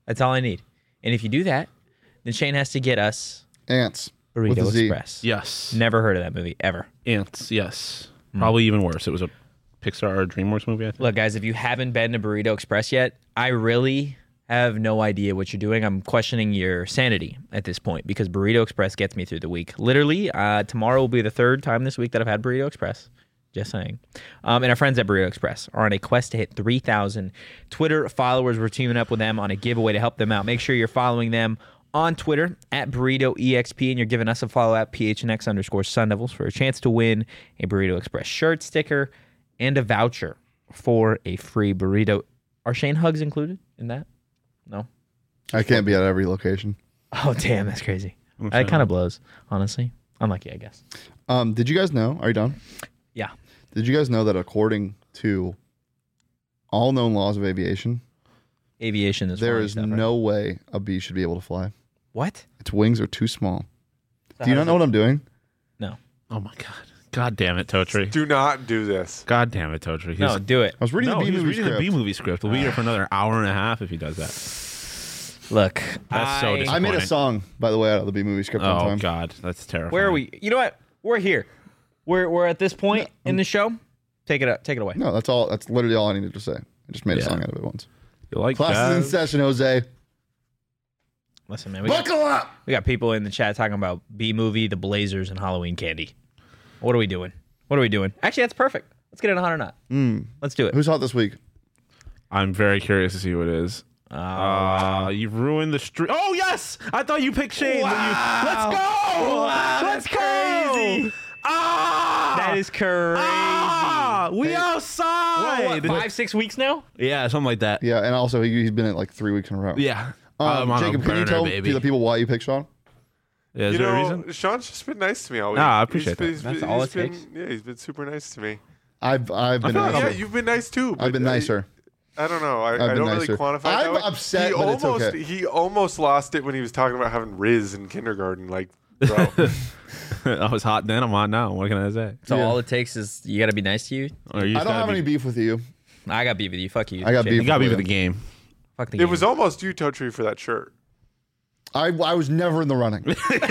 That's all I need. And if you do that, then Shane has to get us Ants. With Burrito a Z. Express. Yes. Never heard of that movie ever. Ants. Yes. Probably even worse. It was a Pixar or DreamWorks movie, I think. Look, guys, if you haven't been to Burrito Express yet, I really have no idea what you're doing. I'm questioning your sanity at this point because Burrito Express gets me through the week. Literally, uh, tomorrow will be the third time this week that I've had Burrito Express. Just saying. Um, and our friends at Burrito Express are on a quest to hit three thousand Twitter followers. We're teaming up with them on a giveaway to help them out. Make sure you're following them on Twitter at Burrito E X P, and you're giving us a follow at P H N X underscore Sun Devils for a chance to win a Burrito Express shirt, sticker, and a voucher for a free burrito. Are Shane hugs included in that? No. I can't be at every location. Oh, damn, that's crazy. That kind of blows, honestly. Unlucky, I guess. Um, did you guys know? Are you done? Yeah. Did you guys know that according to all known laws of aviation, Aviation is there flying is stuff, right? no way a bee should be able to fly? What? Its wings are too small. So Do you how not does know it- what I'm doing? No. Oh, my God. God damn it, Totri. Do not do this. God damn it, Totri. No, do it. I was reading no, the B he's movie reading script. the B movie script. We'll be here for another hour and a half if he does that. Look, That's so I- disappointing. I made a song, by the way, out of the B movie script one Oh, time. God. That's terrifying. Where are we? You know what? We're here. We're we're at this point in the show. Take it up. Take it away. No, that's all. That's literally all I needed to say. I just made a Yeah. song out of it once. You like Class is in jazz? session, Jose. Listen, man. We got, Buckle up. we got people in the chat talking about B movie, the Blazers, and Halloween candy. What are we doing? What are we doing? Actually, that's perfect. Let's get it on or not. Mm. Let's do it. Who's hot this week? I'm very curious to see who it is. Uh, Uh, you've ruined the streak. Oh, yes! I thought you picked Shane. but You... Let's go! Wow, Let's that's go! crazy. Ah! that is crazy. Ah! We Hey. outside! What, five, six weeks now? Yeah, something like that. Yeah, and also he, he's been at like three weeks in a row. Yeah. Um, I'm on a Jacob, can you burner, tell baby. the people why you picked Sean? Yeah, is you there know, a reason? Sean's just been nice to me all week. Ah, I appreciate He's been- that. he's That's been- all he's it been- takes. Yeah, he's been super nice to me. I've I've been feel like nicer. Yeah, you've been nice too. I've been but I- nicer. I don't know. I, I been don't nicer. really quantify it I'm that way. upset, he but it's almost, okay. He almost lost it when he was talking about having Riz in kindergarten. Like, bro. I was hot then. I'm hot now. What can I say? So Yeah. all it takes is you got to be nice to you. Or you I just don't gotta have be, any beef with you. I got beef with you. Fuck you. I got Shane. beef. You got to be with with the game. Fuck the It game. was almost you, Totri, for that shirt. I I was never in the running.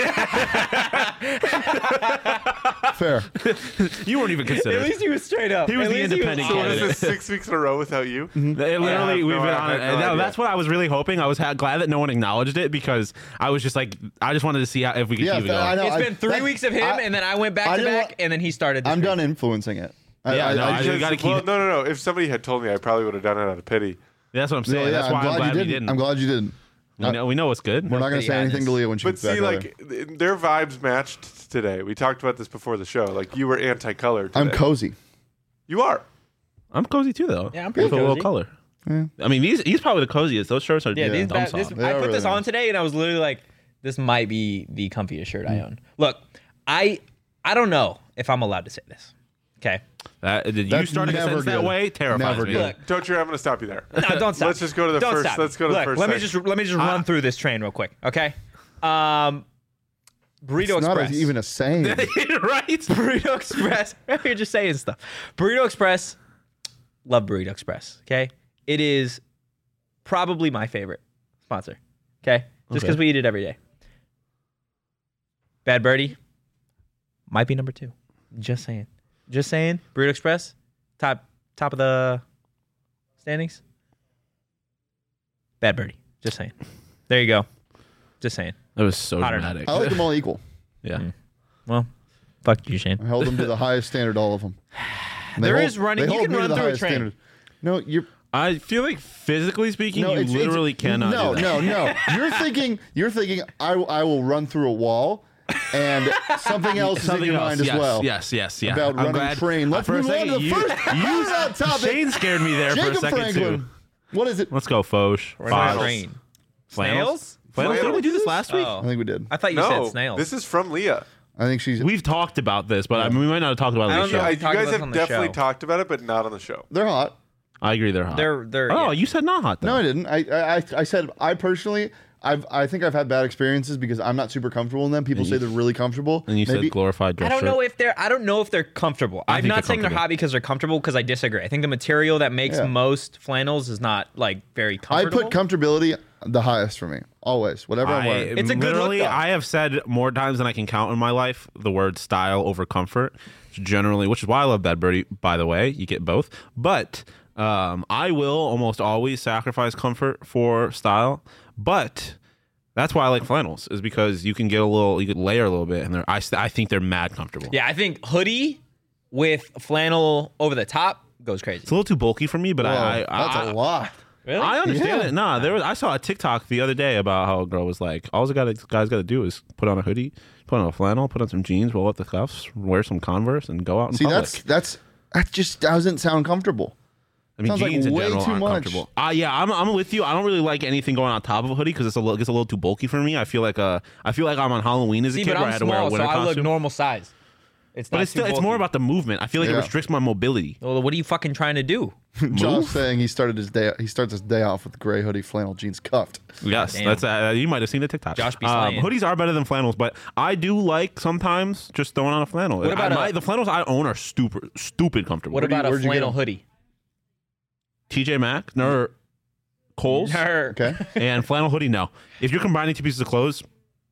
Fair. You weren't even At considered. least he was straight up. He was At the least independent So what candidate. is this, six weeks in a row without you? Mm-hmm. It literally, I have we've no- been I on had it. no No, idea. that's what I was really hoping. I was ha- glad that no one acknowledged it because I was just like, I just wanted to see how, if we could Yeah, keep it fair, I going. know. It's I- been three that- weeks of him, I- and then I went back I to didn't back, wa- and then he started. The I'm streak. done influencing it. I, Yeah, I, no, I I just- just gotta keep- Well, no, no, no. If somebody had told me, I probably would have done it out of pity. That's what I'm saying. no, yeah, that's why I'm I'm glad, glad you we didn't. didn't. I'm glad you didn't. we, know, we know what's good. We're not going to Pretty say anything to honest. Leah when she But gets back see, over like, their vibes matched today. We talked about this before the show. Like, you were anti-color today. I'm cozy. You are. I'm cozy too, though. Yeah, I'm pretty With a little cozy. color. Yeah. I mean, these he's probably the coziest. Those shirts are Yeah, yeah, these, dumb that, this, soft. They I are put really this on nice. today, and I was literally like, "This might be the comfiest shirt I own." Look, I I don't know if I'm allowed to say this. Okay, That, did you That's start a never sentence that good. way? Terrifies Never me. good. look, Don't you? I'm going to stop you there. no, don't stop. Let's just go to the Don't first. stop. Let's go to Look, the first. Let me thing. just let me just run through this train real quick. Okay, um, Burrito It's not Express. a, even a saying. right? Burrito Express. You're just saying stuff. Burrito Express. Love Burrito Express. Okay, it is probably my favorite sponsor. Okay, just because Okay. we eat it every day. Bad Birdie might be number two. Just saying. Just saying. Burrito Express, top top of the standings. Bad Birdie. Just saying. There you go. Just saying. That was so Hot or not. dramatic. I like them all equal. yeah. Well, fuck you, Shane. I held them to the highest standard, all of them. And they There hold- is running- they you hold can me to run the through a highest train. standard. No, you're I feel like physically speaking, no, you it's, literally it's, cannot No, do that. no, no. You're thinking. You're thinking. I I will run through a wall, and something else is in Something your else. mind as yes, well. Yes, yes, yeah. About I'm running glad. train. Let's for a move on to second, the you, first- you, first topic. Shane scared me there for a Jacob second Franklin. too. What is it? Let's go, Foch. We're on a Foch. train. Flannels? Snails? Flannels? Didn't we do this Flannels? last week? Oh. I think we did. I thought you no, said snails. this is from Leah. I think she's. We've talked about this, but I mean, we might not have talked about it I on the don't show. know. I, we you talked guys about this on have the definitely show. talked about it, but not on the show. They're hot. I agree, they're hot. They're they're. oh, yeah. you said not hot though. No, I didn't. I, I I- I said I personally. I've I think I've had bad experiences because I'm not super comfortable in them. People And say you- they're really comfortable. And you Maybe- said glorified dress I don't shirt. know if they're. I don't know if they're comfortable. I I'm think not they're saying they're comfortable. hot because they're comfortable. Because I disagree. I think the material that makes Yeah. most flannels is not like very I comfortable. put comfortability. the highest for me. Always, whatever I'm I, wearing. It's a good look, literally, though. I have said more times than I can count in my life the word style over comfort. Generally, which is why I love Bad Birdie. By the way, you get both, but um, I will almost always sacrifice comfort for style. But that's why I like flannels, is because you can get a little, you can layer a little bit, and they're I, I think they're mad comfortable. Yeah, I think hoodie with flannel over the top goes crazy. It's a little too bulky for me, but Whoa, I, I that's I, a lot. Really? I understand Yeah. it. Nah, there was. I saw a TikTok the other day about how a girl was like, "All the guy, guy's got to do is put on a hoodie, put on a flannel, put on some jeans, roll up the cuffs, wear some Converse, and go out in See, public." that's that's that just doesn't sound comfortable. I mean, sounds like jeans in way general too aren't much. comfortable. Uh, yeah, I'm, I'm with you. I don't really like anything going on top of a hoodie because it's a little, gets a little too bulky for me. I feel like uh, I feel like I'm on Halloween as a See, kid but where I I'm had to wear a small, so winter I look costume. normal size. It's But not it's still, too it's more bulky. about the movement. I feel like Yeah. it restricts my mobility. Well, what are you fucking trying to do? Josh saying he started his day. He starts his day off with gray hoodie, flannel, jeans, cuffed. Yes, Damn. that's uh, you might have seen the TikTok. Josh be um, slaying. hoodies are better than flannels, but I do like sometimes just throwing on a flannel. What about I, a- my, the flannels I own are stupid, stupid comfortable. What do you- about a where'd you get flannel them? hoodie? T J Maxx, no, Kohl's, Her. Okay. and flannel hoodie? No. If you're combining two pieces of clothes,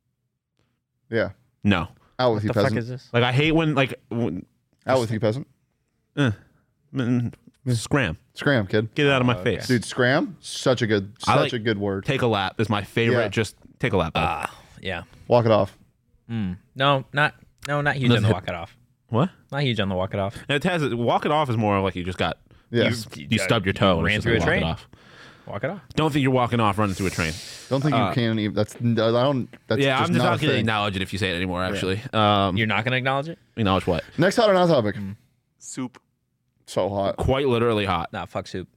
Yeah. no. Out with you, The fuck peasant. is this? Like I hate when like when, Out with you, peasant. eh, mm, scram. Scram, kid. Get it out of my okay. face. Dude, scram. Such a good, I such like- a good word. Take a lap is my favorite. Yeah. Just take a lap. bud. Ah, yeah. Walk it off. Mm. No, not no, not huge Does on the it- walk it off. what? Not huge on the walk it off. It has walk it off is more like you just got Yeah. you, you stubbed your toe and ran it's just through a like, train. walk it off. Walk it off. Don't think you're walking off running through a train. Don't think you can even. That's. I don't. That's yeah, just I'm just not, not a going to thing. acknowledge it if you say it anymore. Actually, um, You're not gonna acknowledge it? acknowledge what? Next hot or not topic. Soup. So hot. Quite literally hot. Nah, fuck soup.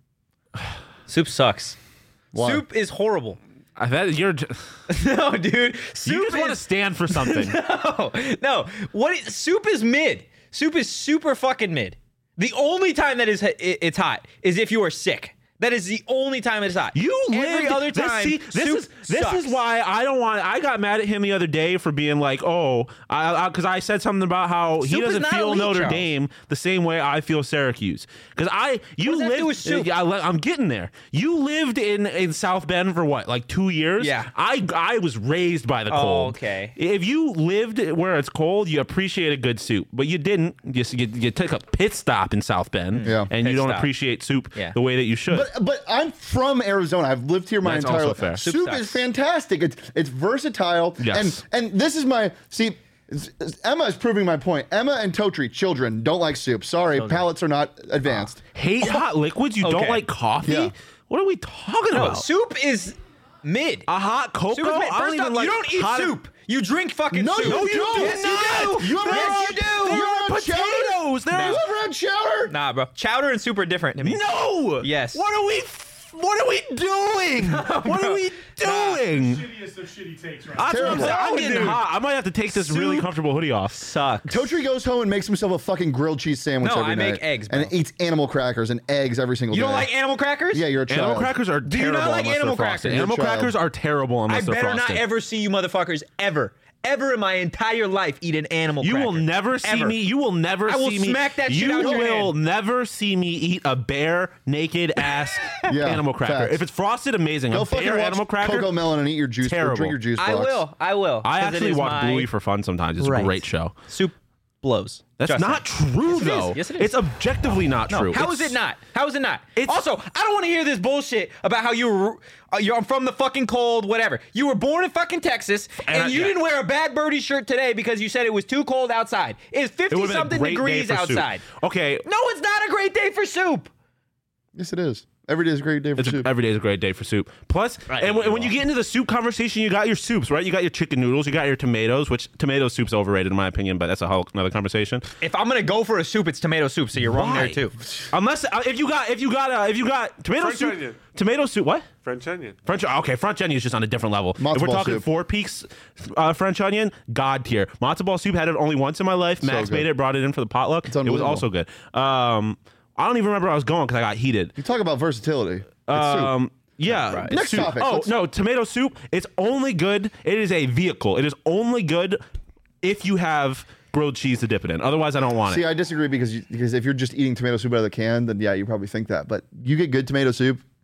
Soup sucks. Why? Soup is horrible. I bet you're. j- No, dude. You Soup just want to is stand for something. no, no. What is, soup is mid. Soup is super fucking mid. The only time that is it- it's hot is if you are sick. That is the only time it's hot. You every lived, other this, time. see, this soup is this sucks. is why I don't want. I got mad at him the other day for being like, oh, I because I, I said something about how he Soup is doesn't not feel elite, Notre Charles. Dame the same way I feel Syracuse. Because I you does that lived. do with soup? I, I'm getting there. You lived in in South Bend for what, like two years? Yeah. I I was raised by the Oh, cold. okay. If you lived where it's cold, you appreciate a good soup, but you didn't. You you, you took a pit stop in South Bend, Yeah. and you Pit don't stop. appreciate soup Yeah. the way that you should. But but I'm from Arizona. I've lived here my That's entire also life. fair. Soup, Soup is sucks. fantastic. It's it's versatile. Yes. And and this is my see. it's- it's- Emma is proving my point. Emma and Totri, children, don't like soup. Sorry, palates are not advanced. Hate hot liquids? You don't Okay. like coffee? Yeah. What are we talking No, about? soup is mid. A hot cocoa? Soup is mid. I don't First even off, like you don't eat hot- soup. You drink fucking No, soup. you don't. Yes, you do. You ever yes, had- you do. you There ever are had chowder? potatoes. There You are ever had chowder? Nah, bro. Chowder and soup are different to me. no. Yes. What are we? What are we doing? What are we doing? Shittiest of shitty takes right That's what I'm Terrible. saying. I'm No, getting dude. hot. I might have to take this really Soup comfortable hoodie off. Sucks. Totri goes home and makes himself a fucking grilled cheese sandwich No, every I make night. eggs, and bro. eats animal crackers and eggs every single You day. don't like animal crackers? Yeah, you're a child. Animal crackers are Do you not terrible like unless animal they're frosted. crackers? Animal You're a child. crackers are terrible I unless they're better frosted. not ever see you motherfuckers ever, ever in my entire life eat an animal You cracker. will never see Ever. me. You will never I will see me. smack that shit you out your will hand. never see me eat a bare, naked ass Yeah, animal cracker. facts. If it's frosted, amazing. Go a fucking bare watch animal cracker. Cocoa Melon and eat your juice. Or Terrible. drink your juice box. I will. I will. I 'cause it actually is watch my Bluey for fun sometimes. It's right. a great show. Soup blows. That's Trust not me. true, Yes, it is. though. Yes, it is. It's objectively not No, true. how is It's- it not? How is it not? It's- Also, I don't want to hear this bullshit about how you were uh, you're from the fucking cold, whatever. You were born in fucking Texas, and, And I- you yeah. didn't wear a Bad Birdie shirt today because you said it was too cold outside. It's It fifty would've been a something great day degrees for soup. outside. Okay, No, it's not a great day for soup. Yes, it is. Every day is a great day for It's a, soup. every day is a great day for soup. Plus, Right. and when, when you get into the soup conversation, you got your soups, right? You got your chicken noodles, you got your tomatoes, which tomato soup's overrated in my opinion, but that's a whole another conversation. If I'm gonna go for a soup, it's tomato soup. So you're wrong Why? there too. Unless uh, if you got if you got uh, if you got tomato French soup, onion. tomato soup, what? French onion. French okay, French onion is just on a different level. Matzo if we're ball talking soup. Four Peaks uh, French onion, god tier. Matzo ball soup had it only once in my life. Max good. made it, brought it in for the potluck. It was unbelievable. also good. Um, I don't even remember where I was going because I got heated. You talk about versatility. It's soup. Um, yeah. Right. Next soup. topic. Oh Let's- no, tomato soup. It's only good. It is a vehicle. It is only good if you have grilled cheese to dip it in. Otherwise, I don't want See, it. I disagree because you, because if you're just eating tomato soup out of the can, then yeah, you probably think that. But you get good tomato soup,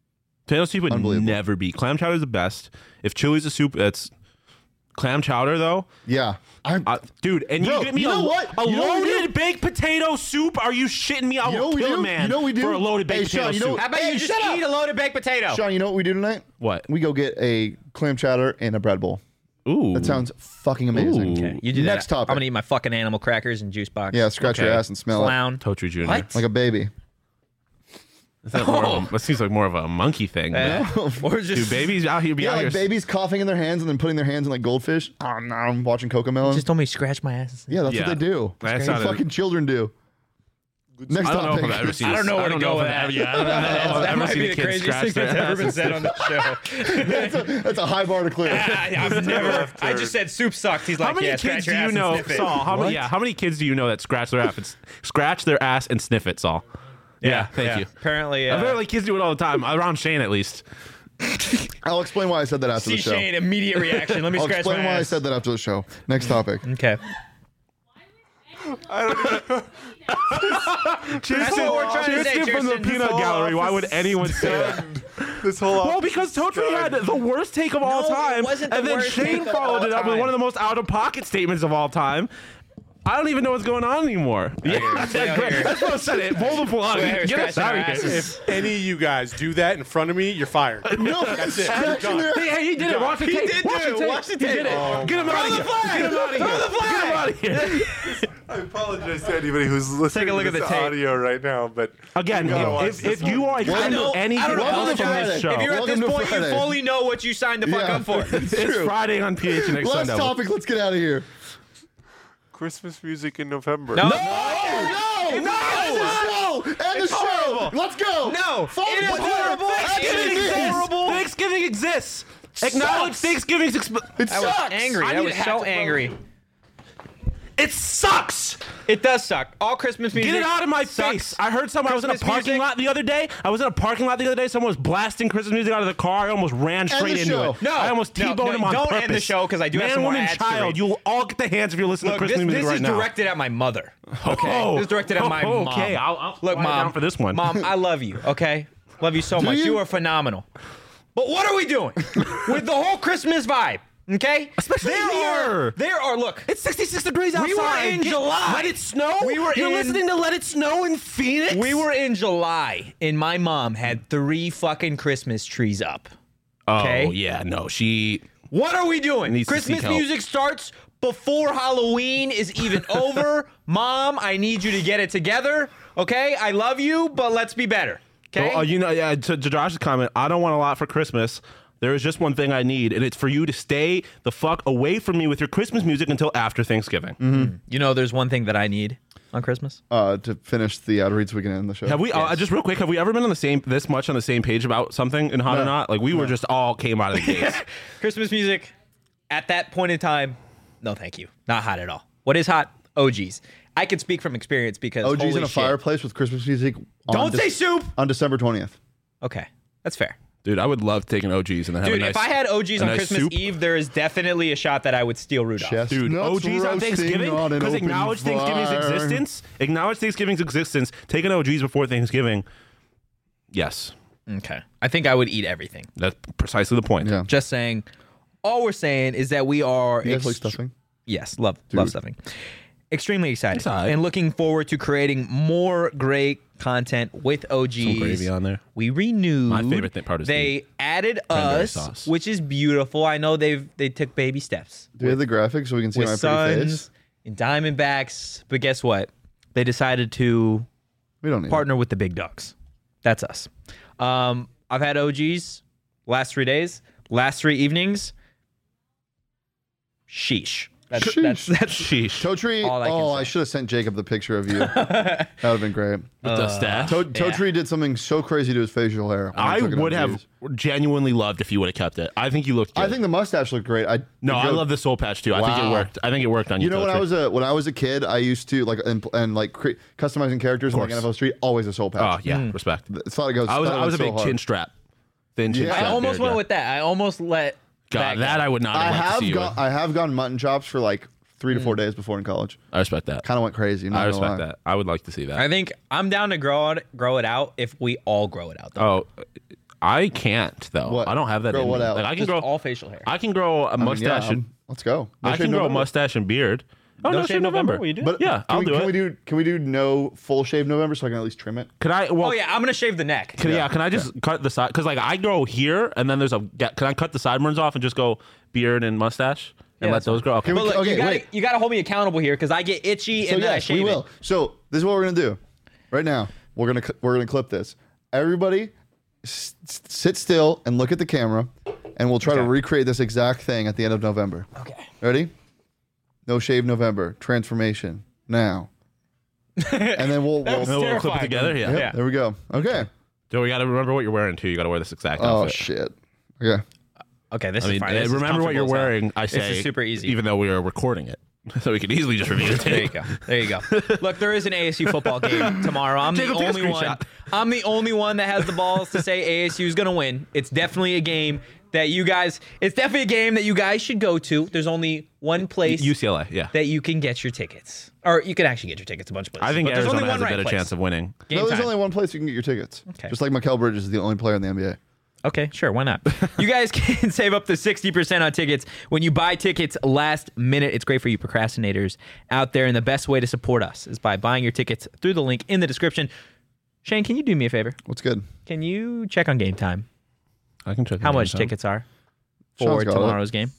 Potato soup would Unbelievable. never beat. Clam chowder is the best. If chili's a soup, that's clam chowder though. Yeah. I, Uh, dude, and Bro, you get me you a, know what? a You know what we loaded baked potato soup? Are you shitting me? I You know will what we kill do? a man You know what we do? for a loaded Hey, baked potato Sean, you know soup. what- How about Hey, you just shut up. eat a loaded baked potato? Sean, you know what we do tonight? What? We go get a clam chowder and a bread bowl. Ooh. That sounds fucking amazing. Ooh. Okay, you do Next that. topic. I'm gonna eat my fucking animal crackers and juice box. Yeah, scratch your Okay. ass and smell clown. Totri Junior What? it like a baby. Is that, more of a, that seems like more of a monkey thing. Uh, or just Dude, babies out here be Yeah, out like here. babies coughing in their hands and then putting their hands in like goldfish. Oh, no, I'm watching Cocomelon. just told me to scratch my ass. Yeah, that's Yeah. what they do. That That's sounded- what fucking children do. Next I don't know if topic. I've ever seen I don't this- know where I to don't go know with if I've that. ever- Yeah, I don't know if I've That ever might seen be a the kid craziest scratch thing their that's ever been asses. said on the show. that's, a, that's a high bar to clear. I, I've never. I just said soup sucked. He's How like, many yeah, kids scratch do your you ass know, and sniff it. Saul? How many? What? Yeah, how many kids do you know that scratch their ass, and, scratch their ass and sniff it, Saul? Yeah, thank yeah. you. Apparently, uh, Apparently, kids do it all the time around Shane, at least. I'll explain why I said that after see the show. Shane, immediate reaction. Let me I'll scratch explain my why I ass. said that after the show. Next topic. Okay. That's what we're trying to say, Tristan from the Tristan. peanut whole gallery. Why office would anyone say that? This whole Well, office because Totri is had done. the worst take of all No, it time, wasn't the and then worst Shane take of followed all it up with time. one of the most out-of-pocket statements of all time. I don't even know what's going on anymore. Yeah, that's Stay out great. here. That's what I said. It. Pull the plug. Stay out here Get us scratching out our of here. asses. If any of you guys do that in front of me, you're fired. No, That's it. scratching You're their done. Hey, hey, he did it. Watch the He tape. did Watch do the it. tape. Watch the He did tape. it. Oh, Get him out of here. Get him out of here. Get him out of here. I apologize to anybody who's listening Take a look to at the this tape. audio right now, but Again, you gotta watch if, this if you one. are expecting know- anything I don't Welcome else to from this Friday. show, If you're at Welcome this to point, you Friday. fully know what you signed the fuck Yeah. up for. It's it's true. Friday on P H N X Last Sunday. topic. Let's get out of here. Christmas music in November. No. No, no, end the show. End the show. horrible. Let's go. No, Fuck it is what- horrible. Thanksgiving It is exists. horrible. Thanksgiving exists. Acknowledge sucks. Thanksgiving's exp- It I was sucks. angry. I I need was to have so to- angry. It sucks. It does suck. All Christmas music. Get it out of my sucks. face. I heard someone. I was in a Christmas parking music- lot the other day. I was in a parking lot the other day. Someone was blasting Christmas music out of the car. I almost ran straight the into show. it. No, I almost no, T-boned no, him on don't purpose. end the show 'cause I do have Man, some more woman, ads to child. read. You'll all get the hands if you're listening Look, to this, Christmas music this right is now. directed at my mother. Okay, Oh. this is directed at my Oh, mom. okay, I'll- I'll Look, quiet mom. down for this one. Mom, I love you. Okay, love you so much. you? You are phenomenal. But what are we doing with the whole Christmas vibe? Okay, Especially there here. are there are look. It's sixty-six degrees outside. We were in Get- July. Let it snow. We were You're in- listening to Let It Snow in Phoenix. We were in July, and my mom had three fucking Christmas trees up. Oh okay. yeah, no, she. What are we doing? Needs to Christmas seek help. music starts before Halloween is even over. Mom, I need you to get it together. Okay, I love you, but let's be better. Okay. Oh, you know, yeah. To, to Josh's comment, I don't want a lot for Christmas. There is just one thing I need, and it's for you to stay the fuck away from me with your Christmas music until after Thanksgiving. You know, there's one thing that I need on Christmas. Uh, to finish the ad reads, we can end the show. Have we? Uh, just real quick, have we ever been on the same this much on the same page about something in Hot or No. Not? Like we were just all came out of the gates. Christmas music at that point in time, no thank you. Not hot at all. What is hot? O Gs. I can speak from experience because O Gs holy in a shit. fireplace with Christmas music. On Don't say soup. on December twentieth. Okay, that's fair. Dude, I would love taking O Gs and then have Dude, a nice. if I had O Gs a on nice Christmas soup. Eve, there is definitely a shot that I would steal Rudolph. Chest- Dude, Nuts O Gs on roasting Thanksgiving on an because open acknowledge Thanksgiving's fire. existence. Acknowledge Thanksgiving's existence. Taking O Gs before Thanksgiving. Yes, Okay, I think I would eat everything. that's precisely the point. Yeah. Just saying. All we're saying is that we are. You guys like ext- stuffing? Yes, love love stuffing. Extremely excited It's all right. and looking forward to creating more great content with O Gs. Some gravy on there. We renewed. My favorite thing- part is they added cranberry us, sauce. which is beautiful. I know they've they took baby steps Do we have the graphics so we can see my with pretty face? Suns and Diamondbacks, but guess what? They decided to We don't need partner with the big dogs. That's us. Um, I've had O Gs last three days, last three evenings. Sheesh. That's Sheesh. that's that's Sheesh. it. Toe Tree. all I can Oh, say. I should have sent Jacob the picture of you. That would have been great. With the staff. Toe, Toe Tree did something so crazy to his facial hair. when he I took it on would have views. genuinely loved if you would have kept it. I think you looked good. I think the mustache looked great. I no, I the- love the soul patch too. I think it Wow. worked. I think it worked on you. You know, when Totri. I was a when I was a kid, I used to like and, and like cre- customizing characters in like course. N F L Street. Always a soul Oh patch. yeah, respect. I thought it goes. I was thought it I was a so big hard. chin strap, thin chin Yeah. I strap. almost beard went guy. with that. I almost let God, that, that go. I would not I have liked to have see you gone. with. I have gone mutton chops for like three Mm. to four days before in college. I respect that. Kind of went crazy. Not I gonna respect lie. that. I would like to see that. I think I'm down to grow it grow it out if we all grow it out. Though. Oh, I can't though. What? I don't have that. Grow in what me. out? Like I can Just grow. all facial hair. I can grow a I mean, yeah, mustache. and, um, let's go. No I shave can grow a November? mustache and beard. Oh, No no, shave shave November? November. Will you do it? But Yeah, can I'll we, do can it. We do, can we do no full shave November so I can at least trim it? Can I? Well, Oh yeah, I'm gonna shave the neck. Can, yeah. Can I just cut the side? Because like I grow here, and then there's a. Can I cut the sideburns off and just go beard and mustache and Yeah, let that's those grow? Okay. Can we- But look, Okay, you gotta wait. you gotta hold me accountable here because I get itchy So and then I yes, shave we it. will. So this is what we're gonna do. Right now, we're gonna cl- we're gonna clip this. Everybody, s- s- sit still and look at the camera, and we'll try to Okay. recreate this exact thing at the end of November. Okay. Ready? No shave November transformation now, and then we'll. That was we'll Then we'll clip it terrifying. together. Yeah. Yep, Yeah. There we go. Okay. So we got to remember what you're wearing too. You got to wear this exact Oh outfit. shit. Okay. Okay, this I mean, is fine. uh, This is remember what you're comfortable as hell. wearing. I This say is super easy. even though we are recording it, so we can easily just review it. There you go. There you go. Look, there is an A S U football game tomorrow. I'm the Jacob, take a only one. screenshot. I'm the only one that has the balls to say A S U is going to win. It's definitely a game that you guys. It's definitely a game that you guys should go to. There's only one place U C L A. Yeah. that you can get your tickets, or you can actually get your tickets a bunch of places. I think but there's Arizona only has one a better right chance place. of winning. Game no, there's time. only one place you can get your tickets. Okay. Just like Mikal Bridges is the only player in the N B A. Okay, sure, why not? You guys can save up to sixty percent on tickets when you buy tickets last minute. It's great for you procrastinators out there, and the best way to support us is by buying your tickets through the link in the description. Shane, can you do me a favor? What's good? Can you check on Game Time I can check. how the much game time. tickets are Sean's for got it. tomorrow's game?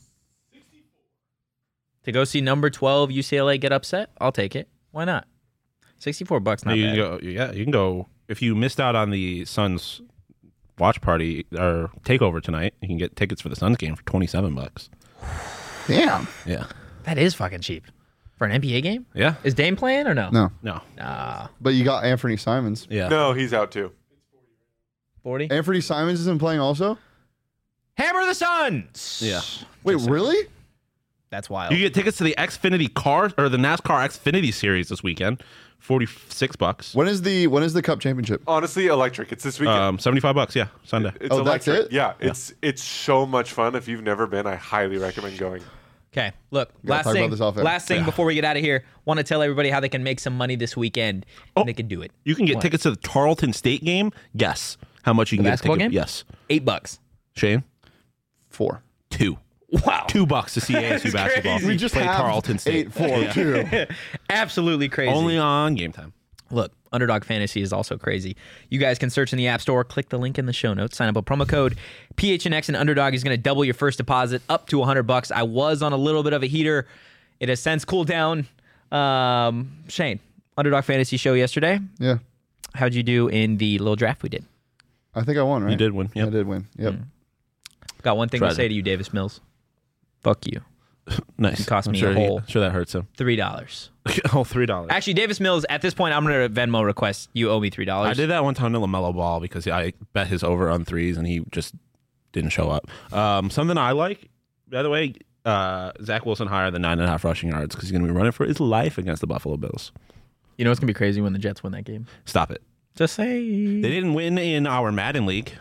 To go see number twelve U C L A get upset? I'll take it. Why not? sixty-four bucks, not you bad. can go. Yeah, you can go. If you missed out on the Suns watch party or takeover tonight, you can get tickets for the Suns game for twenty-seven bucks. Damn. Yeah. That is fucking cheap. For an N B A game? Yeah. Is Dame playing or no? No, No. Nah. but you got Anthony Simons. Yeah. No, he's out too. forty? Anthony Simons isn't playing also? Hammer the Suns! Yeah. Wait, really? That's wild. You get tickets to the Xfinity car or the NASCAR Xfinity series this weekend, forty-six bucks. When is the when is the Cup Championship? Honestly, electric. It's this weekend. Um, seventy-five bucks. Yeah, Sunday. it's Oh, that's electric. it? Yeah, it's it's so much fun. If you've never been, I highly recommend going. Okay, look, gotta last talk thing, about this off air. last thing Yeah. before we get out of here, want to tell everybody how they can make some money this weekend. Oh. And they can do it. You can get What? tickets to the Tarleton State game. Guess how much you can The get. a basketball ticket- game? Yes. Eight bucks. Shane, Four. two. Wow. Two bucks to see A S U That's basketball. crazy. We just play have Tarleton State. eight four Yeah. too. Absolutely crazy. Only on game time. Look, Underdog Fantasy is also crazy. You guys can search in the App Store, click the link in the show notes, sign up with promo code P H N X, and Underdog is going to double your first deposit up to one hundred bucks. I was on a little bit of a heater. It has since cooled down. Um, Shane, Underdog Fantasy show yesterday. Yeah. How'd you do in the little draft we did? I think I won, right? You did win. I Yep. did win. Yep. Got one thing to Tried say it. to you, Davis Mills. Fuck you. Nice. It cost I'm me sure a he- whole- I'm sure that hurts him. Three dollars. oh, three dollars. Actually, Davis Mills, at this point, I'm going to Venmo request you owe me three dollars. I did that one time to LaMelo Ball because I bet his over on threes and he just didn't show up. Um, something I like, by the way, uh, Zach Wilson higher than nine and a half rushing yards because he's going to be running for his life against the Buffalo Bills. You know what's going to be crazy when the Jets win that game? Stop it. Just say. They didn't win in our Madden League.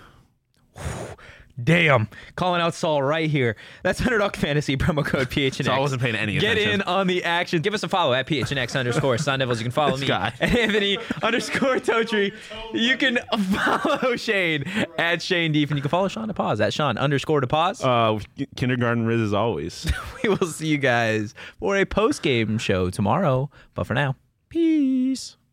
Damn. Calling out Saul right here. That's Underdog Fantasy, promo code P H N X. So I wasn't paying any Get attention. in on the action. Give us a follow at P H N X underscore Sun Devils. You can follow This me guy. at Anthony underscore Totri. You can follow Shane at Shane Deef. And you can follow Sean DePause at Sean underscore DePause. Uh, kindergarten Riz as always. We will see you guys for a post game show tomorrow. But for now, peace.